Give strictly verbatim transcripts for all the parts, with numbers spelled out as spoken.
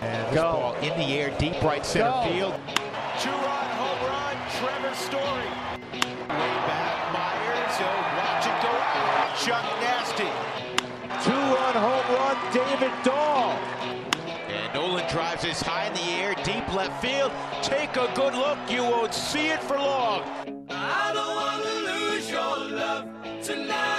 And this Go. ball in the air, deep right center Go. field. Two-run home run, Trevor Story. Way back, Myers, he'll watch it go out. Chuck Nasty. Two-run home run, David Dahl. And Nolan drives this high in the air, deep left field. Take a good look, you won't see it for long. I don't want to lose your love tonight.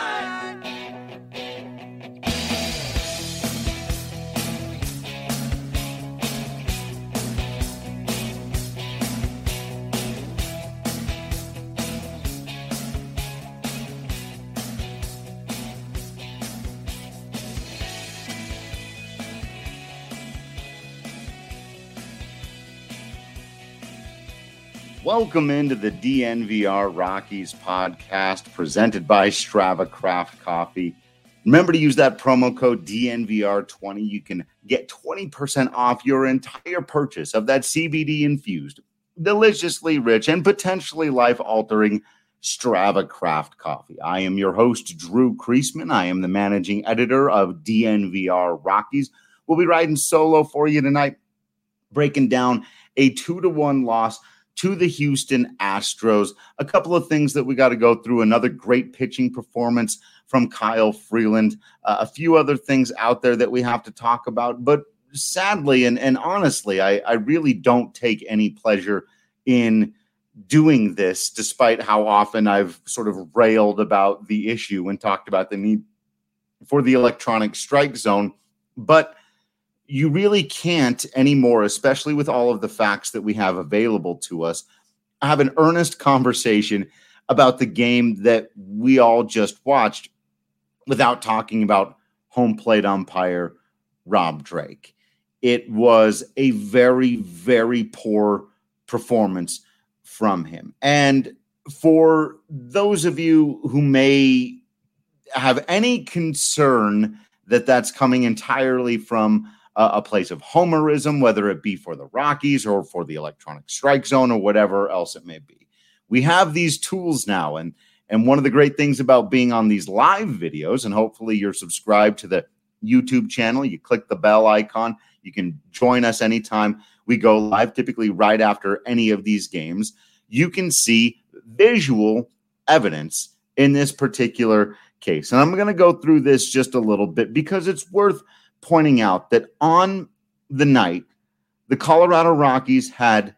Welcome into the D N V R Rockies podcast presented by Strava Craft Coffee. Remember to use that promo code D N V R twenty. You can get twenty percent off your entire purchase of that C B D-infused, deliciously rich, and potentially life-altering Strava Craft Coffee. I am your host, Drew Kreisman. I am the managing editor of D N V R Rockies. We'll be riding solo for you tonight, breaking down a two to one loss to the Houston Astros. A couple of things that we got to go through. Another great pitching performance from Kyle Freeland. Uh, a few other things out there that we have to talk about. But sadly and, and honestly, I, I really don't take any pleasure in doing this, despite how often I've sort of railed about the issue and talked about the need for the electronic strike zone. But you really can't anymore, especially with all of the facts that we have available to us, have an earnest conversation about the game that we all just watched without talking about home plate umpire Rob Drake. It was a very, very poor performance from him. And for those of you who may have any concern that that's coming entirely from Uh, a place of homerism, whether it be for the Rockies or for the electronic strike zone or whatever else it may be. We have these tools now, and and one of the great things about being on these live videos, and hopefully you're subscribed to the YouTube channel, you click the bell icon, you can join us anytime we go live, typically right after any of these games. You can see visual evidence in this particular case. And I'm going to go through this just a little bit because it's worth pointing out that on the night, the Colorado Rockies had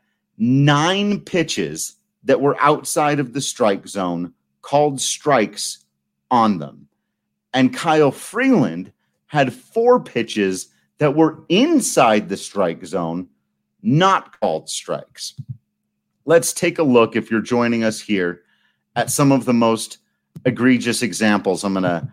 nine pitches that were outside of the strike zone called strikes on them. And Kyle Freeland had four pitches that were inside the strike zone, not called strikes. Let's take a look, if you're joining us here, at some of the most egregious examples. I'm going to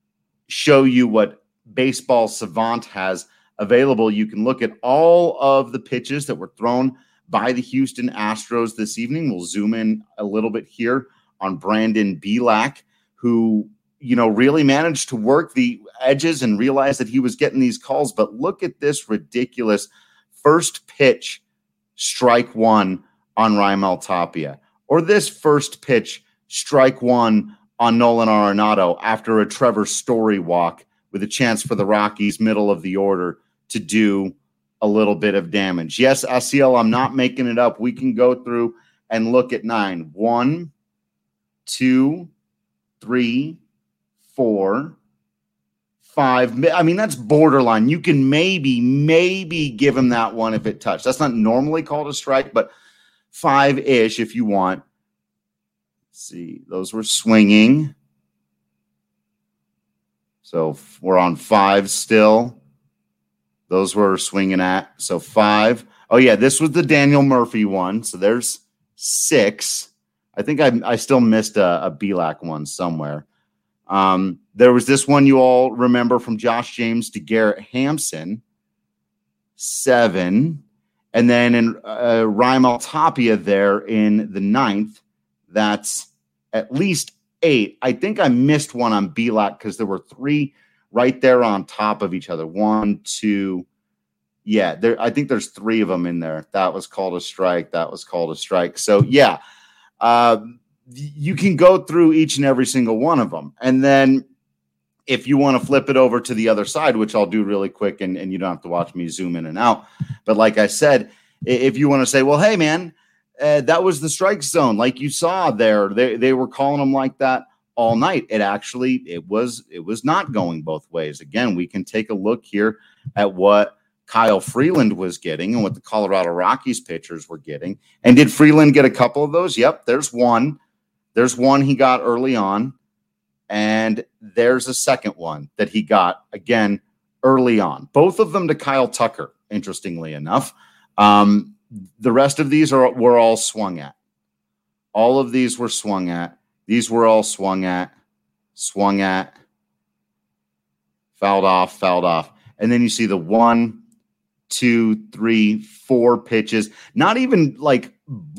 show you what Baseball Savant has available. You can look at all of the pitches that were thrown by the Houston Astros this evening. We'll zoom in a little bit here on Brandon Bielak, who, you know, really managed to work the edges and realize that he was getting these calls. But look at this ridiculous first pitch, strike one on Raimel Tapia, or this first pitch, strike one on Nolan Arenado after a Trevor Story walk, with a chance for the Rockies middle of the order to do a little bit of damage. Yes, Asiel, I'm not making it up. We can go through and look at nine. One, two, three, four, five. I mean, that's borderline. You can maybe, maybe give him that one if it touched. That's not normally called a strike, but five-ish if you want. Let's see. Those were swinging. So we're on five still. Those were swinging at. So five. Oh, yeah, this was the Daniel Murphy one. So there's six. I think I, I still missed a, a Bielak one somewhere. Um, there was this one you all remember from Josh James to Garrett Hampson. Seven. And then in uh, Raimel Tapia there in the ninth, that's at least eight. I think I missed one on Bielak because there were three right there on top of each other. One, two. Yeah, there. I think there's three of them in there. That was called a strike. That was called a strike. So, yeah, uh, you can go through each and every single one of them. And then if you want to flip it over to the other side, which I'll do really quick, and, and you don't have to watch me zoom in and out. But like I said, if you want to say, well, hey, man, uh, that was the strike zone. Like you saw there, they, they were calling them like that all night. It actually, it was, it was not going both ways. Again, we can take a look here at what Kyle Freeland was getting and what the Colorado Rockies pitchers were getting. And did Freeland get a couple of those? Yep, there's one. There's one he got early on. And there's a second one that he got, again, early on. Both of them to Kyle Tucker, interestingly enough. Um, the rest of these are were all swung at. All of these were swung at. These were all swung at, swung at, fouled off, fouled off. And then you see the one, two, three, four pitches. Not even like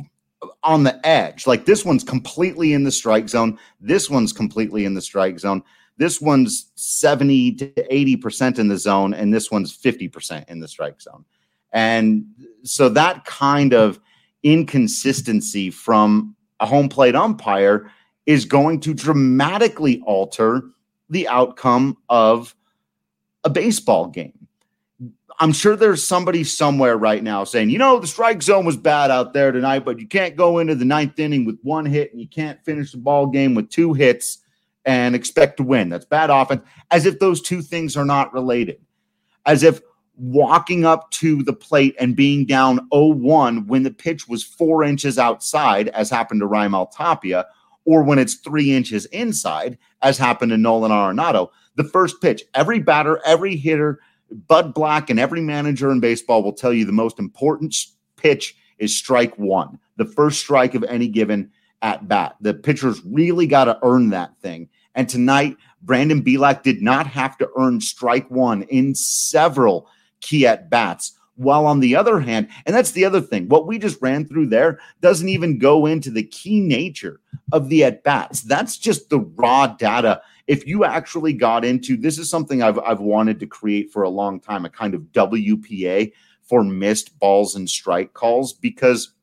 on the edge. Like this one's completely in the strike zone. This one's completely in the strike zone. This one's seventy to eighty percent in the zone, and this one's fifty percent in the strike zone. And so that kind of inconsistency from a home plate umpire is going to dramatically alter the outcome of a baseball game. I'm sure there's somebody somewhere right now saying, you know, the strike zone was bad out there tonight, but you can't go into the ninth inning with one hit and you can't finish the ball game with two hits and expect to win. That's bad offense. As if those two things are not related. As if walking up to the plate and being down oh one when the pitch was four inches outside, as happened to Raimel Tapia, or when it's three inches inside, as happened to Nolan Arenado. The first pitch, every batter, every hitter, Bud Black and every manager in baseball will tell you the most important pitch is strike one, the first strike of any given at bat. The pitchers really got to earn that thing. And tonight, Brandon Bielak did not have to earn strike one in several key at bats. While on the other hand, and that's the other thing, what we just ran through there doesn't even go into the key nature of the at bats. That's just the raw data. If you actually got into, this is something I've I've wanted to create for a long time, a kind of W P A for missed balls and strike calls, because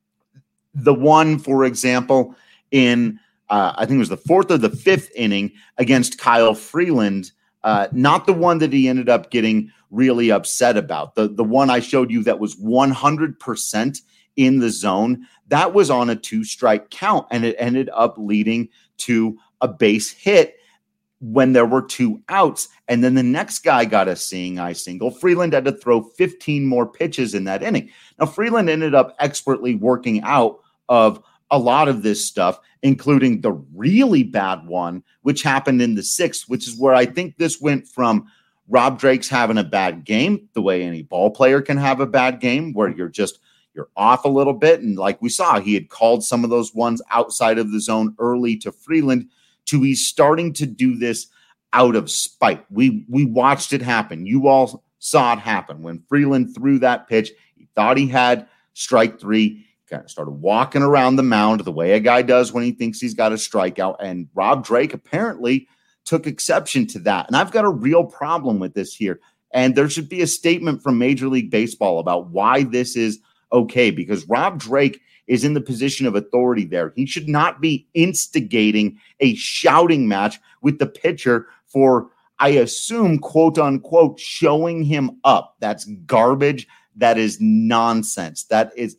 the one, for example, in uh, I think it was the fourth or the fifth inning against Kyle Freeland, uh, not the one that he ended up getting really upset about, the the one I showed you that was one hundred percent in the zone, that was on a two strike count, and it ended up leading to a base hit when there were two outs. And then the next guy got a seeing eye single. Freeland had to throw fifteen more pitches in that inning. Now, Freeland ended up expertly working out of a lot of this stuff, including the really bad one, which happened in the sixth, which is where I think this went from Rob Drake's having a bad game, the way any ball player can have a bad game, where you're just, you're off a little bit. And like we saw, he had called some of those ones outside of the zone early to Freeland, to he's starting to do this out of spite. We we watched it happen. You all saw it happen. When Freeland threw that pitch, he thought he had strike three. He kind of started walking around the mound the way a guy does when he thinks he's got a strikeout. And Rob Drake apparently took exception to that. And I've got a real problem with this here. And there should be a statement from Major League Baseball about why this is okay, because Rob Drake is in the position of authority there. He should not be instigating a shouting match with the pitcher for, I assume, quote unquote, showing him up. That's garbage. That is nonsense. That is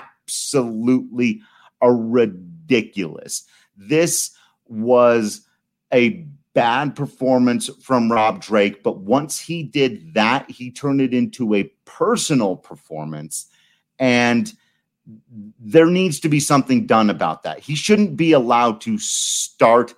absolutely a ridiculous. This was a bad performance from Rob Drake, but once he did that, he turned it into a personal performance, and there needs to be something done about that. He shouldn't be allowed to start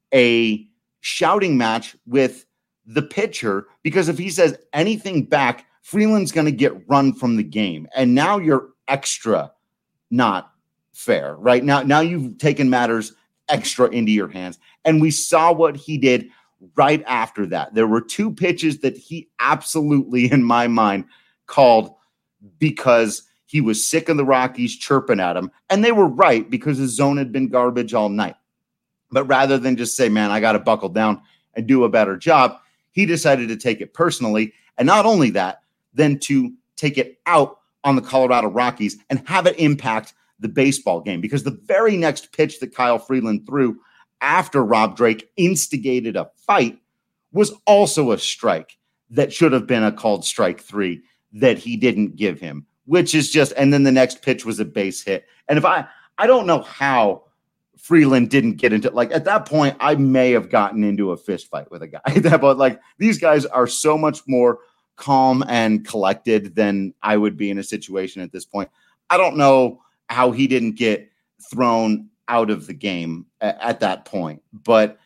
a shouting match with the pitcher, because if he says anything back, Freeland's going to get run from the game. And now you're extra not fair, right? Now, now you've taken matters extra into your hands. And we saw what he did right after that. There were two pitches that he absolutely, in my mind, called because he was sick of the Rockies chirping at him. And they were right, because his zone had been garbage all night. But rather than just say, man, I got to buckle down and do a better job, he decided to take it personally. And not only that, then to take it out on the Colorado Rockies and have it impact the baseball game. Because the very next pitch that Kyle Freeland threw after Rob Drake instigated a fight was also a strike that should have been a called strike three that he didn't give him, which is just, and then the next pitch was a base hit. And if I, I don't know how Freeland didn't get into, like, at that point, I may have gotten into a fist fight with a guy, but like, these guys are so much more calm and collected than I would be in a situation at this point. I don't know how he didn't get thrown out of the game at, at that point, but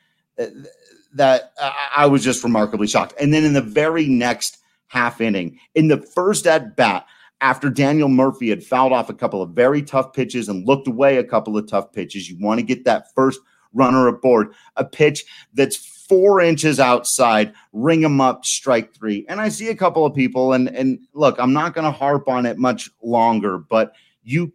that uh, I was just remarkably shocked. And then in the very next half inning, in the first at bat, after Daniel Murphy had fouled off a couple of very tough pitches and looked away a couple of tough pitches, you want to get that first runner aboard, a pitch that's four inches outside, ring him up, strike three. And I see a couple of people, and, and look, I'm not going to harp on it much longer, but you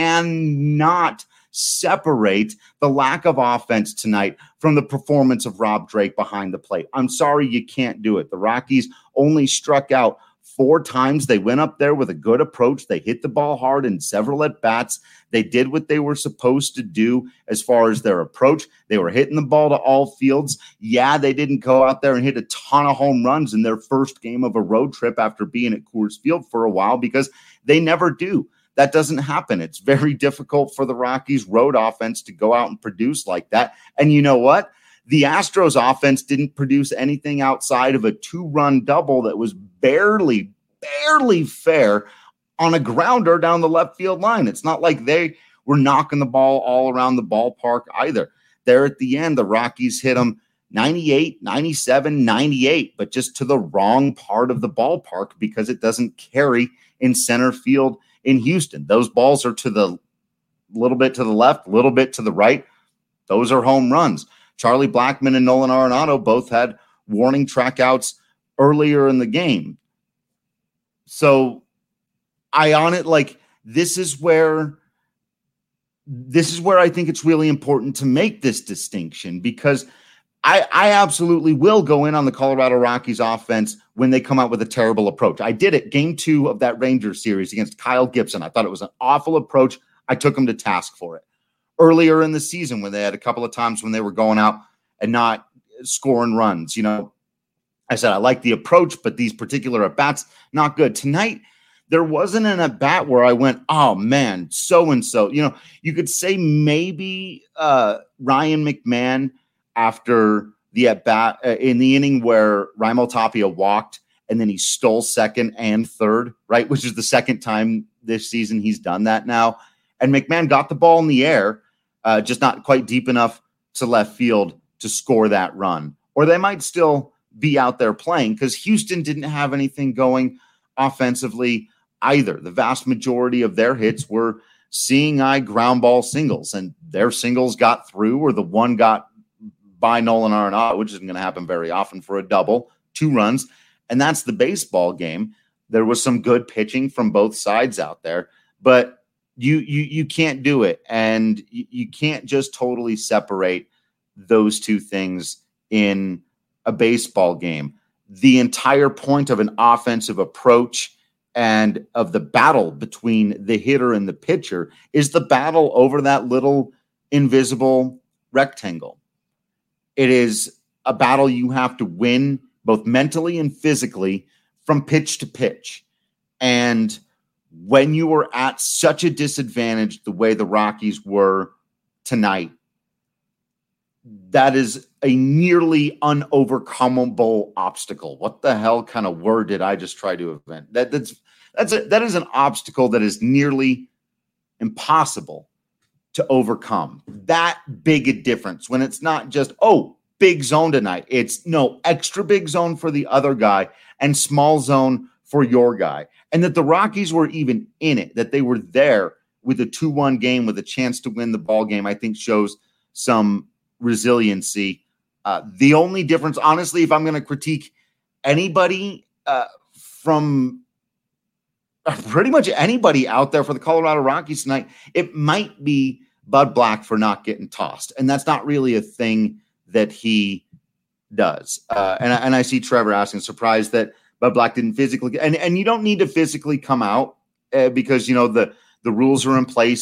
cannot separate the lack of offense tonight from the performance of Rob Drake behind the plate. I'm sorry, you can't do it. The Rockies only struck out four times. They went up there with a good approach. They hit the ball hard in several at-bats. They did what they were supposed to do as far as their approach. They were hitting the ball to all fields. Yeah, they didn't go out there and hit a ton of home runs in their first game of a road trip after being at Coors Field for a while, because they never do. That doesn't happen. It's very difficult for the Rockies road offense to go out and produce like that. And you know what? The Astros offense didn't produce anything outside of a two-run double that was barely, barely fair on a grounder down the left field line. It's not like they were knocking the ball all around the ballpark either. There at the end, the Rockies hit them ninety-eight, ninety-seven, ninety-eight, but just to the wrong part of the ballpark because it doesn't carry in center field in Houston. Those balls are to the little bit to the left, a little bit to the right. Those are home runs. Charlie Blackmon and Nolan Arenado both had warning trackouts earlier in the game. So I on it like this is where this is where I think it's really important to make this distinction, because I, I absolutely will go in on the Colorado Rockies offense when they come out with a terrible approach. I did it game two of that Rangers series against Kyle Gibson. I thought it was an awful approach. I took him to task for it. Earlier in the season, when they had a couple of times when they were going out and not scoring runs, you know, I said, I like the approach, but these particular at-bats, not good. Tonight, there wasn't an at-bat where I went, oh, man, so-and-so. You know, you could say maybe uh, Ryan McMahon after the at-bat uh, in the inning where Raimel Tapia walked and then he stole second and third, right, which is the second time this season he's done that now. And McMahon got the ball in the air, uh, just not quite deep enough to left field to score that run. Or they might still be out there playing because Houston didn't have anything going offensively either. The vast majority of their hits were seeing eye ground ball singles, and their singles got through, or the one got by Nolan Arenado, which isn't going to happen very often, for a double, two runs. And that's the baseball game. There was some good pitching from both sides out there, but You you you can't do it, and you, you can't just totally separate those two things in a baseball game. The entire point of an offensive approach and of the battle between the hitter and the pitcher is the battle over that little invisible rectangle. It is a battle you have to win both mentally and physically from pitch to pitch. And when you were at such a disadvantage the way the Rockies were tonight, that is a nearly unovercomable obstacle. What the hell kind of word did I just try to invent? That that's that's a, that is an obstacle that is nearly impossible to overcome. That big a difference when it's not just, oh, big zone tonight. It's no extra big zone for the other guy and small zone for your guy. And that the Rockies were even in it, that they were there with a two one game with a chance to win the ball game, I think shows some resiliency. Uh, the only difference, honestly, if I'm going to critique anybody uh, from uh, pretty much anybody out there for the Colorado Rockies tonight, it might be Bud Black for not getting tossed. And that's not really a thing that he does. Uh, and, and I see Trevor asking, surprised that Bud Black didn't physically, and, and you don't need to physically come out uh, because, you know, the, the rules are in place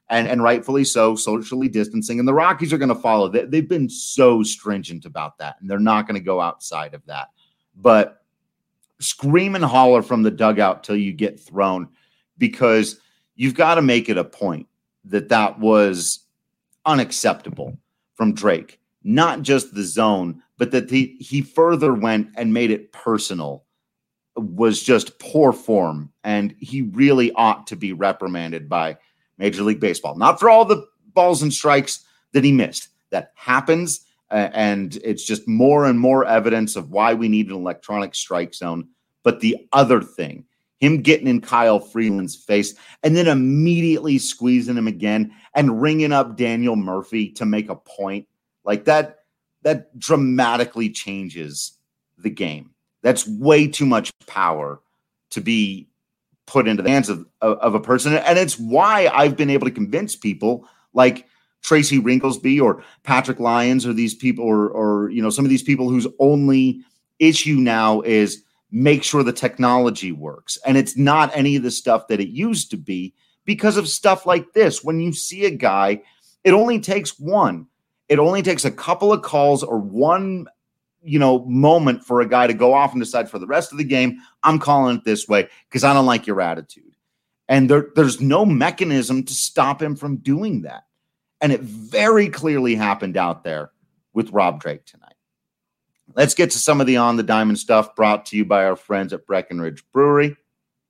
and, and rightfully so, socially distancing. And the Rockies are going to follow. They, they've been so stringent about that, and they're not going to go outside of that. But scream and holler from the dugout till you get thrown, because you've got to make it a point that that was unacceptable from Drake. Not just the zone, but that he, he further went and made it personal was just poor form. And he really ought to be reprimanded by Major League Baseball. Not for all the balls and strikes that he missed. That happens, uh, and it's just more and more evidence of why we need an electronic strike zone. But the other thing, him getting in Kyle Freeland's face and then immediately squeezing him again and ringing up Daniel Murphy to make a point, like that, that dramatically changes the game. That's way too much power to be put into the hands of, of, of a person. And it's why I've been able to convince people like Tracy Rinklesby or Patrick Lyons or these people or, or, you know, some of these people whose only issue now is make sure the technology works. And it's not any of the stuff that it used to be because of stuff like this. When you see a guy, it only takes one. It only takes a couple of calls or one, you know, moment for a guy to go off and decide for the rest of the game, I'm calling it this way because I don't like your attitude. And there, there's no mechanism to stop him from doing that. And it very clearly happened out there with Rob Drake tonight. Let's get to some of the On the Diamond stuff brought to you by our friends at Breckenridge Brewery.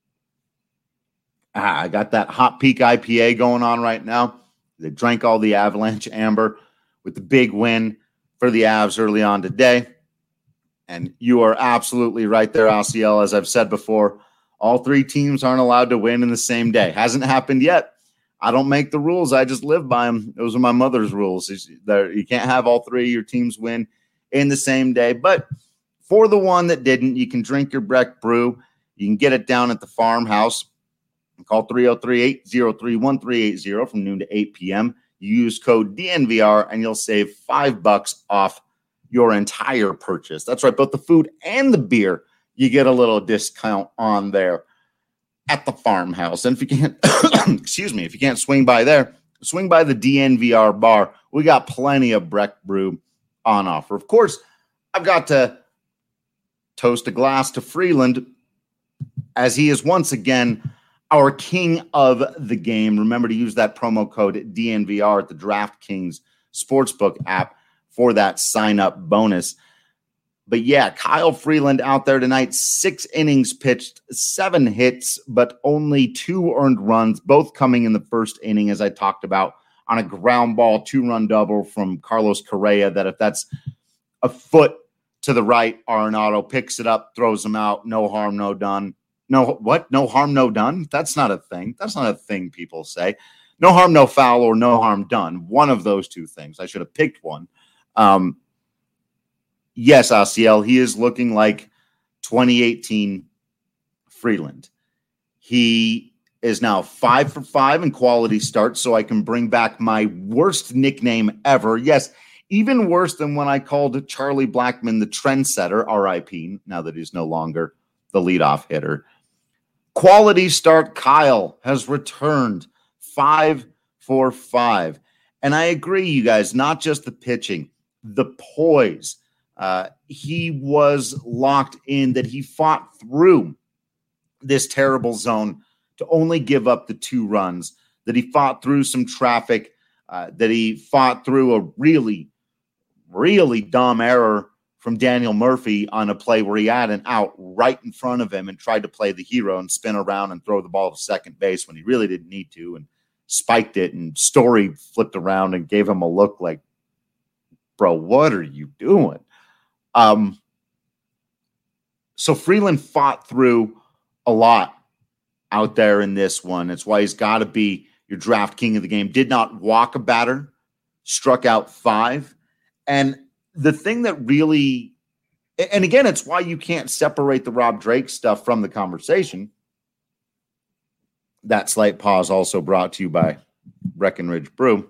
Ah, I got that Hot Peak I P A going on right now. They drank all the Avalanche Amber with the big win for the Avs early on today. And you are absolutely right there, A C L. As I've said before, all three teams aren't allowed to win in the same day. Hasn't happened yet. I don't make the rules. I just live by them. Those are my mother's rules. You can't have all three of your teams win in the same day. But for the one that didn't, you can drink your Breck Brew. You can get it down at the farmhouse. Call three oh three, eight oh three, one three eight oh from noon to eight p.m. You use code D N V R and you'll save five bucks off your entire purchase. That's right. Both the food and the beer, you get a little discount on there at the farmhouse. And if you can't, excuse me, if you can't swing by there, swing by the D N V R bar. We got plenty of Breck Brew on offer. Of course, I've got to toast a glass to Freeland as he is once again our king of the game. Remember to use that promo code D N V R at the DraftKings Sportsbook app for that sign-up bonus. But yeah, Kyle Freeland out there tonight, six innings pitched, seven hits, but only two earned runs, both coming in the first inning, as I talked about, on a ground ball, two-run double from Carlos Correa, that if that's a foot to the right, Arenado picks it up, throws him out, no harm, no done. No, what? No harm, no done? That's not a thing. That's not a thing people say. No harm, no foul, or no harm done. One of those two things. I should have picked one. Um, yes, A C L, he is looking like twenty eighteen Freeland. He is now five for five in quality starts, so I can bring back my worst nickname ever. Yes, even worse than when I called Charlie Blackmon the trendsetter, R I P, now that he's no longer the leadoff hitter. Quality start Kyle has returned five for five. And I agree, you guys, not just the pitching, the poise. Uh, he was locked in, that he fought through this terrible zone to only give up the two runs, that he fought through some traffic, uh, that he fought through a really, really dumb error from Daniel Murphy on a play where he had an out right in front of him and tried to play the hero and spin around and throw the ball to second base when he really didn't need to, and spiked it, and Story flipped around and gave him a look like, bro, what are you doing? Um, so Freeland fought through a lot out there in this one. It's why he's got to be your draft king of the game. Did not walk a batter, struck out five. And the thing that really, and again, it's why you can't separate the Rob Drake stuff from the conversation. That slight pause also brought to you by Breckenridge Brew.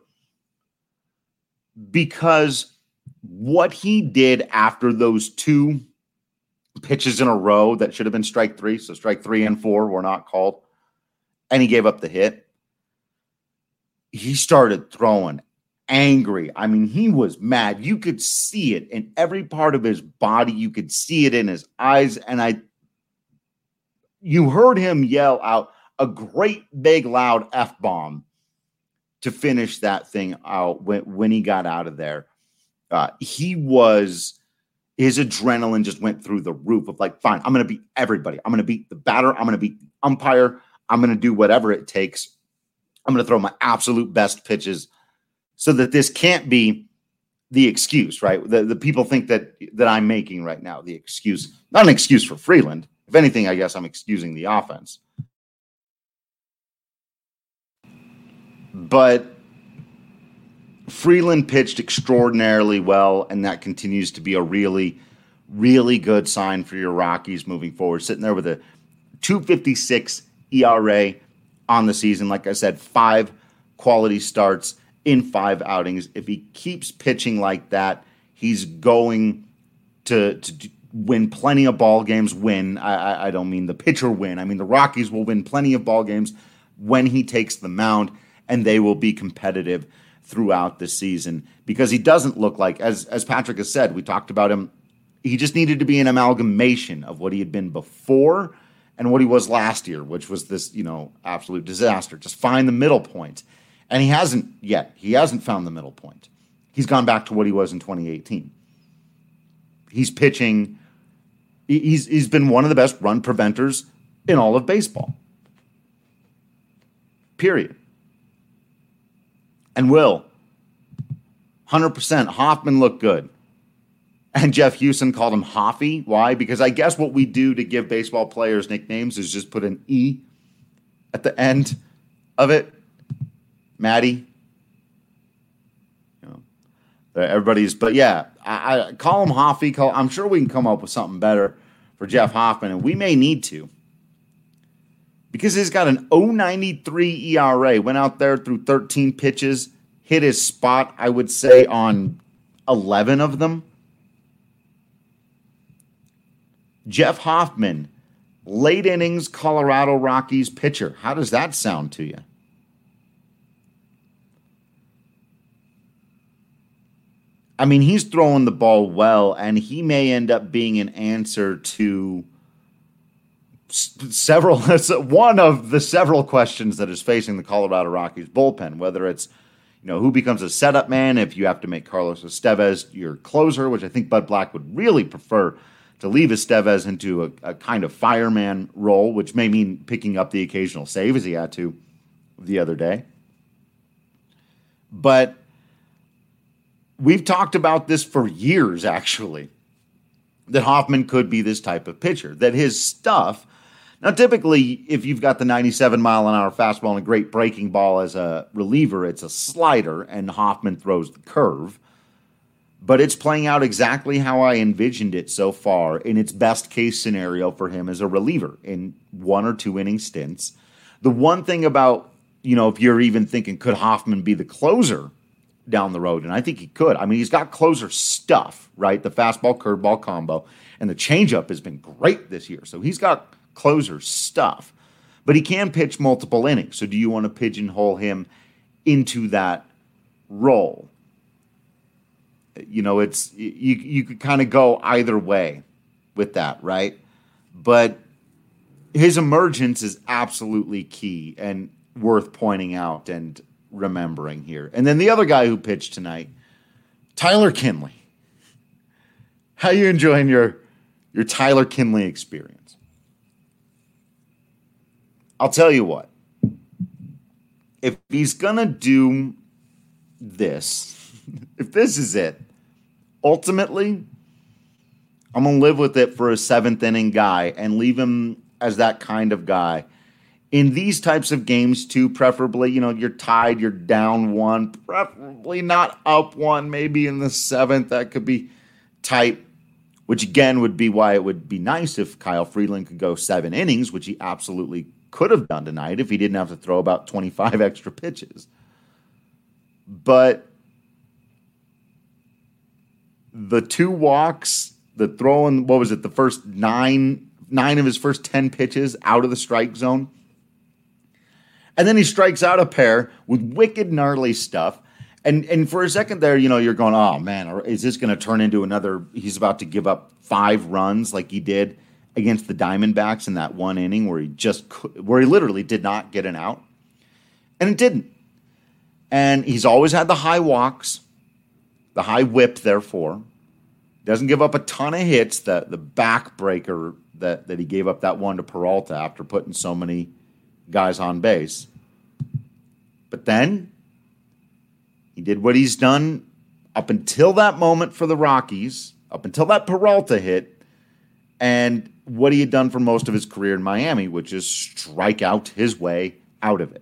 Because what he did after those two pitches in a row that should have been strike three, so strike three and four were not called, and he gave up the hit. he started throwing angry. I mean, he was mad. You could see it in every part of his body. You could see it in his eyes. And I, you heard him yell out a great big loud F-bomb to finish that thing out when, when he got out of there. Uh, he was, his adrenaline just went through the roof of like, fine, I'm going to beat everybody. I'm going to beat the batter. I'm going to beat the umpire. I'm going to do whatever it takes. I'm going to throw my absolute best pitches so that this can't be the excuse, right? The, the people think that that I'm making right now, the excuse, not an excuse for Freeland. If anything, I guess I'm excusing the offense. But Freeland pitched extraordinarily well, and that continues to be a really, really good sign for your Rockies moving forward. Sitting there with a two fifty-six E R A on the season. Like I said, five quality starts in five outings. If he keeps pitching like that, he's going to, to win plenty of ball games. Win. I, I, I don't mean the pitcher win. I mean the Rockies will win plenty of ball games when he takes the mound, and they will be competitive throughout the season because he doesn't look like, as as Patrick has said, we talked about him, he just needed to be an amalgamation of what he had been before and what he was last year, which was this, you know, absolute disaster. Just find the middle point. And he hasn't yet. He hasn't found the middle point. He's gone back to what he was in twenty eighteen. He's pitching. He's, he's been one of the best run preventers in all of baseball. Period. And Will, one hundred percent, Hoffman looked good. And Jeff Houston called him Hoffy. Why? Because I guess what we do to give baseball players nicknames is just put an E at the end of it. Maddie. You know, everybody's, but yeah, I, I call him Hoffy. Call, I'm sure we can come up with something better for Jeff Hoffman, and we may need to. Because he's got an oh ninety-three E R A. Went out there through thirteen pitches, hit his spot, I would say, on eleven of them. Jeff Hoffman, late innings Colorado Rockies pitcher. How does that sound to you? I mean, he's throwing the ball well, and he may end up being an answer to several, one of the several questions that is facing the Colorado Rockies bullpen, whether it's, you know, who becomes a setup man if you have to make Carlos Estevez your closer, which I think Bud Black would really prefer to leave Estevez into a, a kind of fireman role, which may mean picking up the occasional save as he had to the other day. But we've talked about this for years, actually, that Hoffman could be this type of pitcher, that his stuff. Now, typically, if you've got the ninety-seven mile an hour fastball and a great breaking ball as a reliever, it's a slider, and Hoffman throws the curve. But it's playing out exactly how I envisioned it so far in its best case scenario for him as a reliever in one or two inning stints. The one thing about, you know, if you're even thinking, could Hoffman be the closer down the road? And I think he could. I mean, he's got closer stuff, right? The fastball, curveball combo, and the changeup has been great this year. So he's got closer stuff, but he can pitch multiple innings. So do you want to pigeonhole him into that role? You know, it's, you, you could kind of go either way with that, right? But his emergence is absolutely key and worth pointing out and remembering here. And then the other guy who pitched tonight, Tyler Kinley. How you enjoying your, your Tyler Kinley experience? I'll tell you what. If he's going to do this, if this is it, ultimately, I'm going to live with it for a seventh inning guy and leave him as that kind of guy. In these types of games, too, preferably, you know, you're tied, you're down one, preferably not up one, maybe in the seventh. That could be tight, which again would be why it would be nice if Kyle Freeland could go seven innings, which he absolutely could have done tonight if he didn't have to throw about twenty-five extra pitches. But the two walks, the throwing, what was it, the first nine, nine of his first ten pitches out of the strike zone, And then he strikes out a pair with wicked gnarly stuff. And and for a second there, you know, you're going, oh, man, is this going to turn into another, he's about to give up five runs like he did against the Diamondbacks in that one inning where he just, where he literally did not get an out. And it didn't. And he's always had the high walks, the high whip, therefore. Doesn't give up a ton of hits, the, the backbreaker that, that he gave up that one to Peralta after putting so many guys on base. But then he did what he's done up until that moment for the Rockies, up until that Peralta hit, and what he had done for most of his career in Miami, which is strike out his way out of it.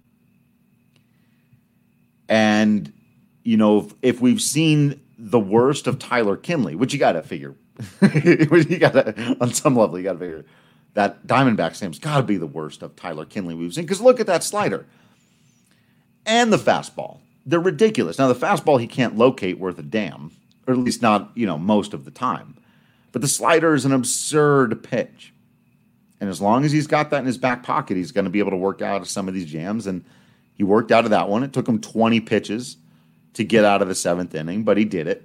And, you know, if, if we've seen the worst of Tyler Kinley, which you got to figure, you got to, on some level, you got to figure that Diamondbacks game's got to be the worst of Tyler Kinley we've seen. Because look at that slider and the fastball. They're ridiculous. Now, the fastball he can't locate worth a damn, or at least not, you know, most of the time. But the slider is an absurd pitch. And as long as he's got that in his back pocket, he's going to be able to work out of some of these jams. And he worked out of that one. It took him twenty pitches to get out of the seventh inning, but he did it.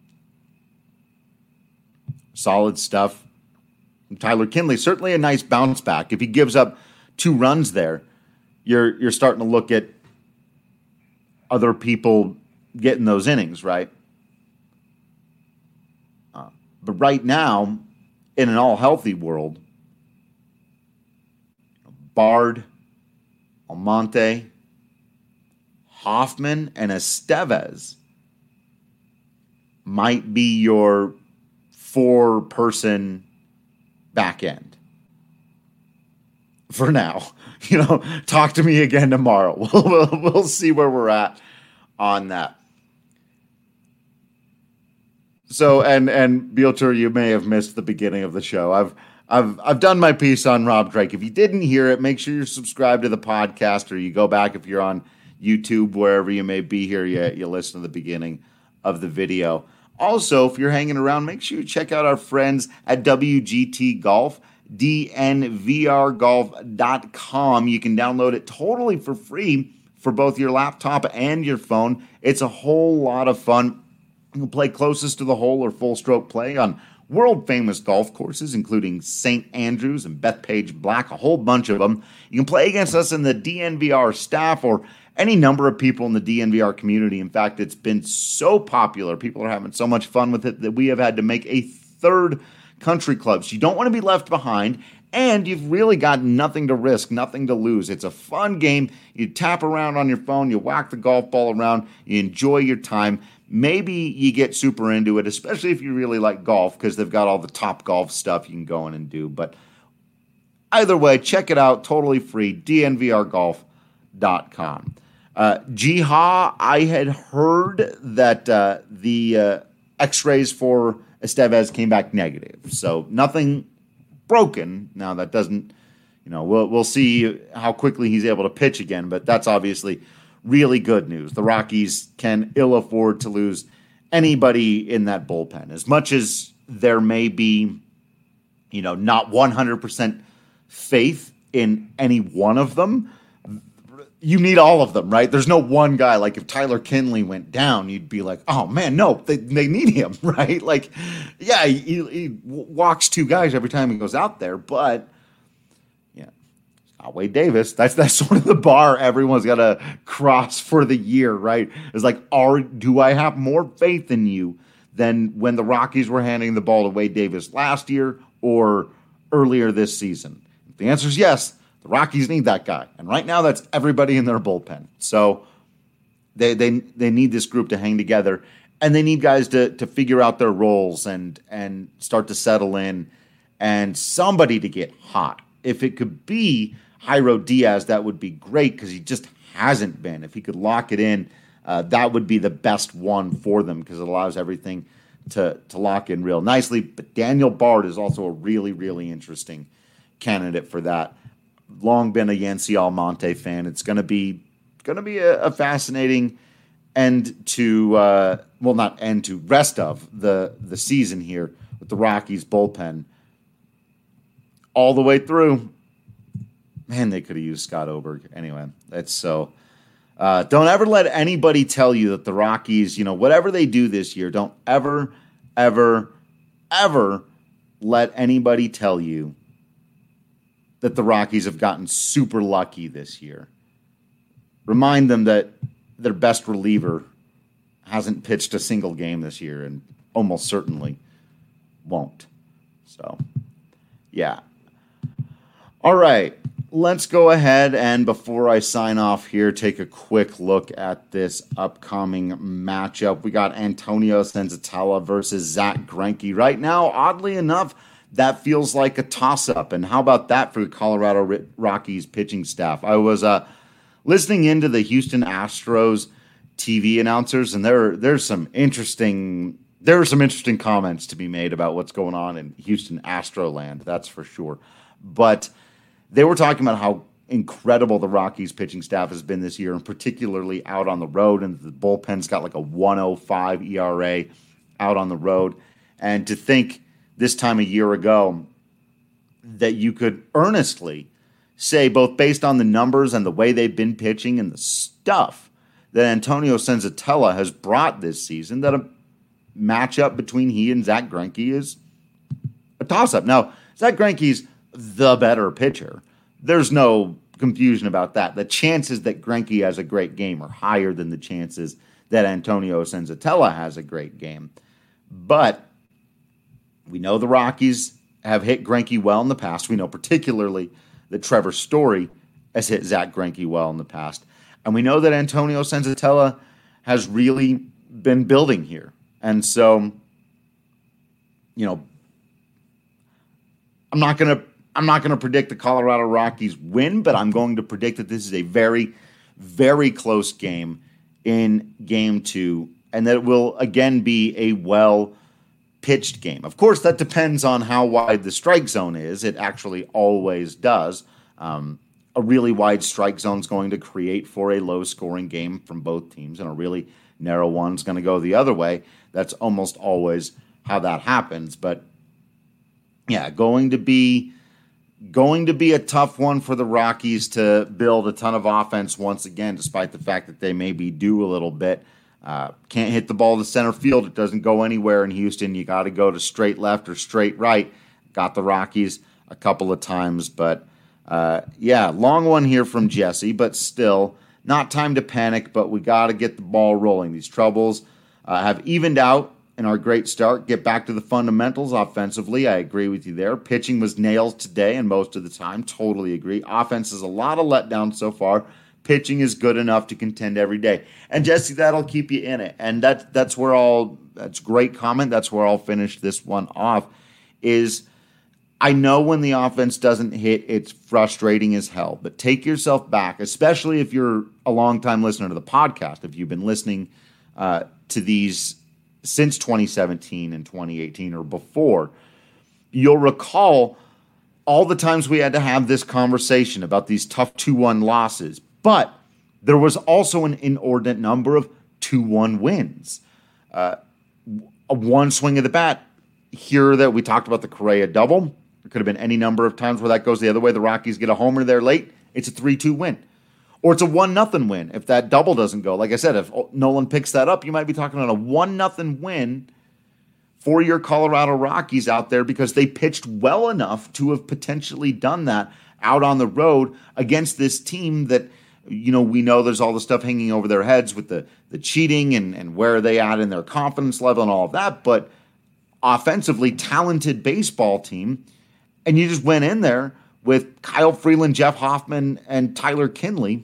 Solid stuff. And Tyler Kinley, certainly a nice bounce back. If he gives up two runs there, you're you're starting to look at other people getting those innings, right? Uh, but right now, in an all-healthy world, Bard, Almonte, Hoffman, and Estevez might be your four-person back end. For now. You know, talk to me again tomorrow. We'll, we'll, we'll see where we're at on that. So, and and Beelter, you may have missed the beginning of the show. I've I've I've done my piece on Rob Drake. If you didn't hear it, make sure you're subscribed to the podcast, or you go back if you're on YouTube, wherever you may be here, you, you listen to the beginning of the video. Also, if you're hanging around, make sure you check out our friends at W G T Golf. D N V R golf dot com. You can download it totally for free for both your laptop and your phone. It's a whole lot of fun. You can play closest to the hole or full stroke play on world-famous golf courses, including Saint Andrews and Bethpage Black, a whole bunch of them. You can play against us in the D N V R staff or any number of people in the D N V R community. In fact, it's been so popular. People are having so much fun with it that we have had to make a third country clubs. You don't want to be left behind, and you've really got nothing to risk, nothing to lose. It's a fun game. You tap around on your phone, you whack the golf ball around, you enjoy your time. Maybe you get super into it, especially if you really like golf, because they've got all the top golf stuff you can go in and do. But either way, check it out, totally free, D N V R golf dot com. Uh, Jiha, I had heard that uh, the uh, x-rays for Estevez came back negative, so nothing broken. Now that doesn't, you know, we'll we'll see how quickly he's able to pitch again, but that's obviously really good news. The Rockies can ill afford to lose anybody in that bullpen. As much as there may be, you know, not one hundred percent faith in any one of them, you need all of them, right? There's no one guy. Like if Tyler Kinley went down, you'd be like, oh man, no, they, they need him, right? Like, yeah, he, he walks two guys every time he goes out there, but yeah, it's not Wade Davis. That's that's sort of the bar everyone's got to cross for the year, right? It's like, are do I have more faith in you than when the Rockies were handing the ball to Wade Davis last year or earlier this season? If the answer is yes, the Rockies need that guy. And right now, that's everybody in their bullpen. So they they they need this group to hang together. And they need guys to to figure out their roles and and start to settle in. And somebody to get hot. If it could be Jairo Diaz, that would be great because he just hasn't been. If he could lock it in, uh, that would be the best one for them because it allows everything to, to lock in real nicely. But Daniel Bard is also a really, really interesting candidate for that. Long been a Yancy Almonte fan. It's going to be going to be a, a fascinating end to uh, well, not end to rest of the the season here with the Rockies bullpen all the way through. Man, they could have used Scott Oberg. Anyway, that's so. Uh, don't ever let anybody tell you that the Rockies, you know, whatever they do this year, don't ever, ever, ever let anybody tell you that the Rockies have gotten super lucky this year. Remind them that their best reliever hasn't pitched a single game this year and almost certainly won't. So, yeah. All right. Let's go ahead and before I sign off here, take a quick look at this upcoming matchup. We got Antonio Senzatela versus Zach Greinke. Right now, oddly enough, that feels like a toss-up. And how about that for the Colorado Rockies pitching staff? I was uh, listening into the Houston Astros T V announcers, and there there's some interesting there are some interesting comments to be made about what's going on in Houston Astroland. That's for sure. But they were talking about how incredible the Rockies pitching staff has been this year, and particularly out on the road. And the bullpen's got like a one oh five E R A out on the road. And to think this time a year ago that you could earnestly say, both based on the numbers and the way they've been pitching and the stuff that Antonio Senzatela has brought this season, that a matchup between he and Zach Greinke is a toss-up. Now, Zach Greinke's the better pitcher. There's no confusion about that. The chances that Greinke has a great game are higher than the chances that Antonio Senzatela has a great game. But we know the Rockies have hit Greinke well in the past. We know particularly that Trevor Story has hit Zach Greinke well in the past. And we know that Antonio Senzatela has really been building here. And so, you know, I'm not going to I'm not going to predict the Colorado Rockies win, but I'm going to predict that this is a very, very close game in game two, and that it will again be a well-pitched game. Of course, that depends on how wide the strike zone is. It actually always does. Um, a really wide strike zone is going to create for a low-scoring game from both teams, and a really narrow one is going to go the other way. That's almost always how that happens. But, yeah, going to be... Going to be a tough one for the Rockies to build a ton of offense once again, despite the fact that they maybe do a little bit. Uh, can't hit the ball to center field. It doesn't go anywhere in Houston. You got to go to straight left or straight right. Got the Rockies a couple of times. But, uh, yeah, long one here from Jesse, but still not time to panic, but we got to get the ball rolling. These troubles uh, have evened out. In our great start, get back to the fundamentals offensively. I agree with you there. Pitching was nails today and most of the time. Totally agree. Offense is a lot of letdown so far. Pitching is good enough to contend every day. And Jesse, that'll keep you in it. And that, that's where I'll, that's great comment. That's where I'll finish this one off is I know when the offense doesn't hit, it's frustrating as hell. But take yourself back, especially if you're a longtime listener to the podcast, if you've been listening uh, to these since twenty seventeen and twenty eighteen or before, you'll recall all the times we had to have this conversation about these tough two one losses. But there was also an inordinate number of two one wins. Uh, a one swing of the bat here that we talked about the Correa double. There could have been any number of times where that goes the other way. The Rockies get a homer there late. It's a three two win. Or it's a one nothing win if that double doesn't go. Like I said, if Nolan picks that up, you might be talking about a one nothing win for your Colorado Rockies out there because they pitched well enough to have potentially done that out on the road against this team that, you know, we know there's all the stuff hanging over their heads with the, the cheating and, and where are they at in their confidence level and all of that. But offensively, talented baseball team. And you just went in there with Kyle Freeland, Jeff Hoffman, and Tyler Kinley.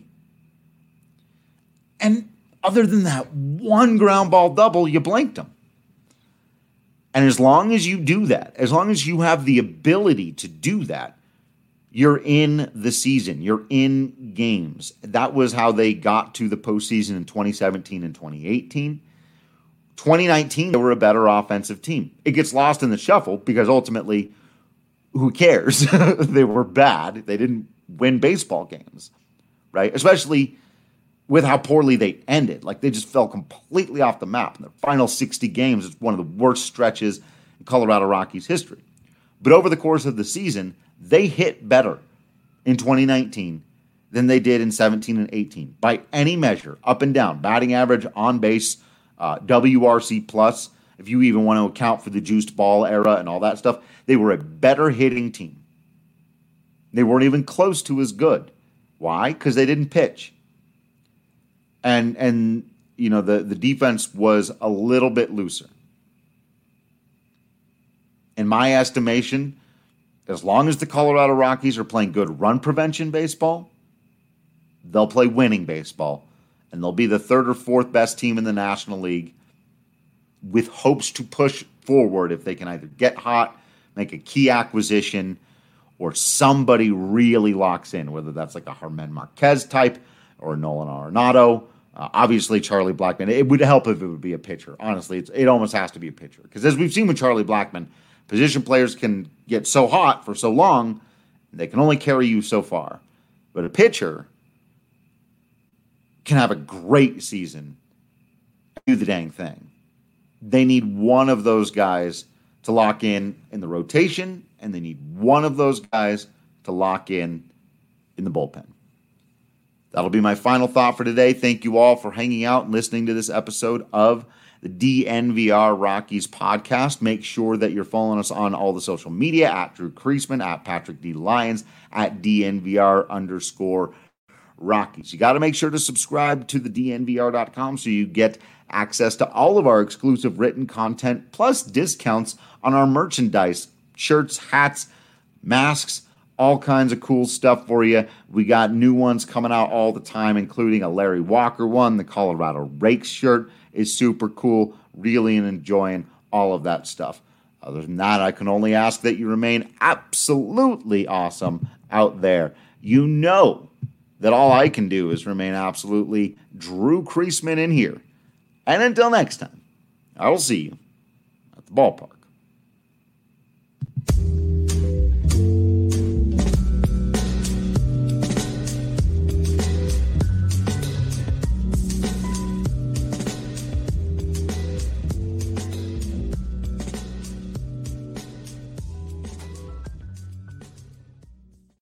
And other than that one ground ball double, you blanked them. And as long as you do that, as long as you have the ability to do that, you're in the season. You're in games. That was how they got to the postseason in twenty seventeen and twenty eighteen. twenty nineteen, they were a better offensive team. It gets lost in the shuffle because ultimately, who cares? They were bad. They didn't win baseball games, right? Especially with how poorly they ended. Like, they just fell completely off the map. In their final sixty games, it's one of the worst stretches in Colorado Rockies history. But over the course of the season, they hit better in twenty nineteen than they did in seventeen and eighteen. By any measure, up and down, batting average, on base, uh, W R C plus, if you even want to account for the juiced ball era and all that stuff, they were a better hitting team. They weren't even close to as good. Why? Because they didn't pitch. And, and you know, the, the defense was a little bit looser. In my estimation, as long as the Colorado Rockies are playing good run prevention baseball, they'll play winning baseball, and they'll be the third or fourth best team in the National League with hopes to push forward if they can either get hot, make a key acquisition, or somebody really locks in, whether that's like a Germán Marquez type or Nolan Arenado. Uh, obviously, Charlie Blackmon. It would help if it would be a pitcher. Honestly, it's, it almost has to be a pitcher. Because as we've seen with Charlie Blackmon, position players can get so hot for so long, they can only carry you so far. But a pitcher can have a great season, do the dang thing. They need one of those guys to lock in in the rotation, and they need one of those guys to lock in in the bullpen. That'll be my final thought for today. Thank you all for hanging out and listening to this episode of the D N V R Rockies podcast. Make sure that you're following us on all the social media at Drew Creasman, at Patrick D. Lyons, at D N V R underscore Rockies. You got to make sure to subscribe to the D N V R dot com so you get access to all of our exclusive written content, plus discounts on our merchandise, shirts, hats, masks, all kinds of cool stuff for you. We got new ones coming out all the time, including a Larry Walker one. The Colorado Rakes shirt is super cool. Really enjoying all of that stuff. Other than that, I can only ask that you remain absolutely awesome out there. You know that all I can do is remain absolutely Drew Creasman in here. And until next time, I will see you at the ballpark.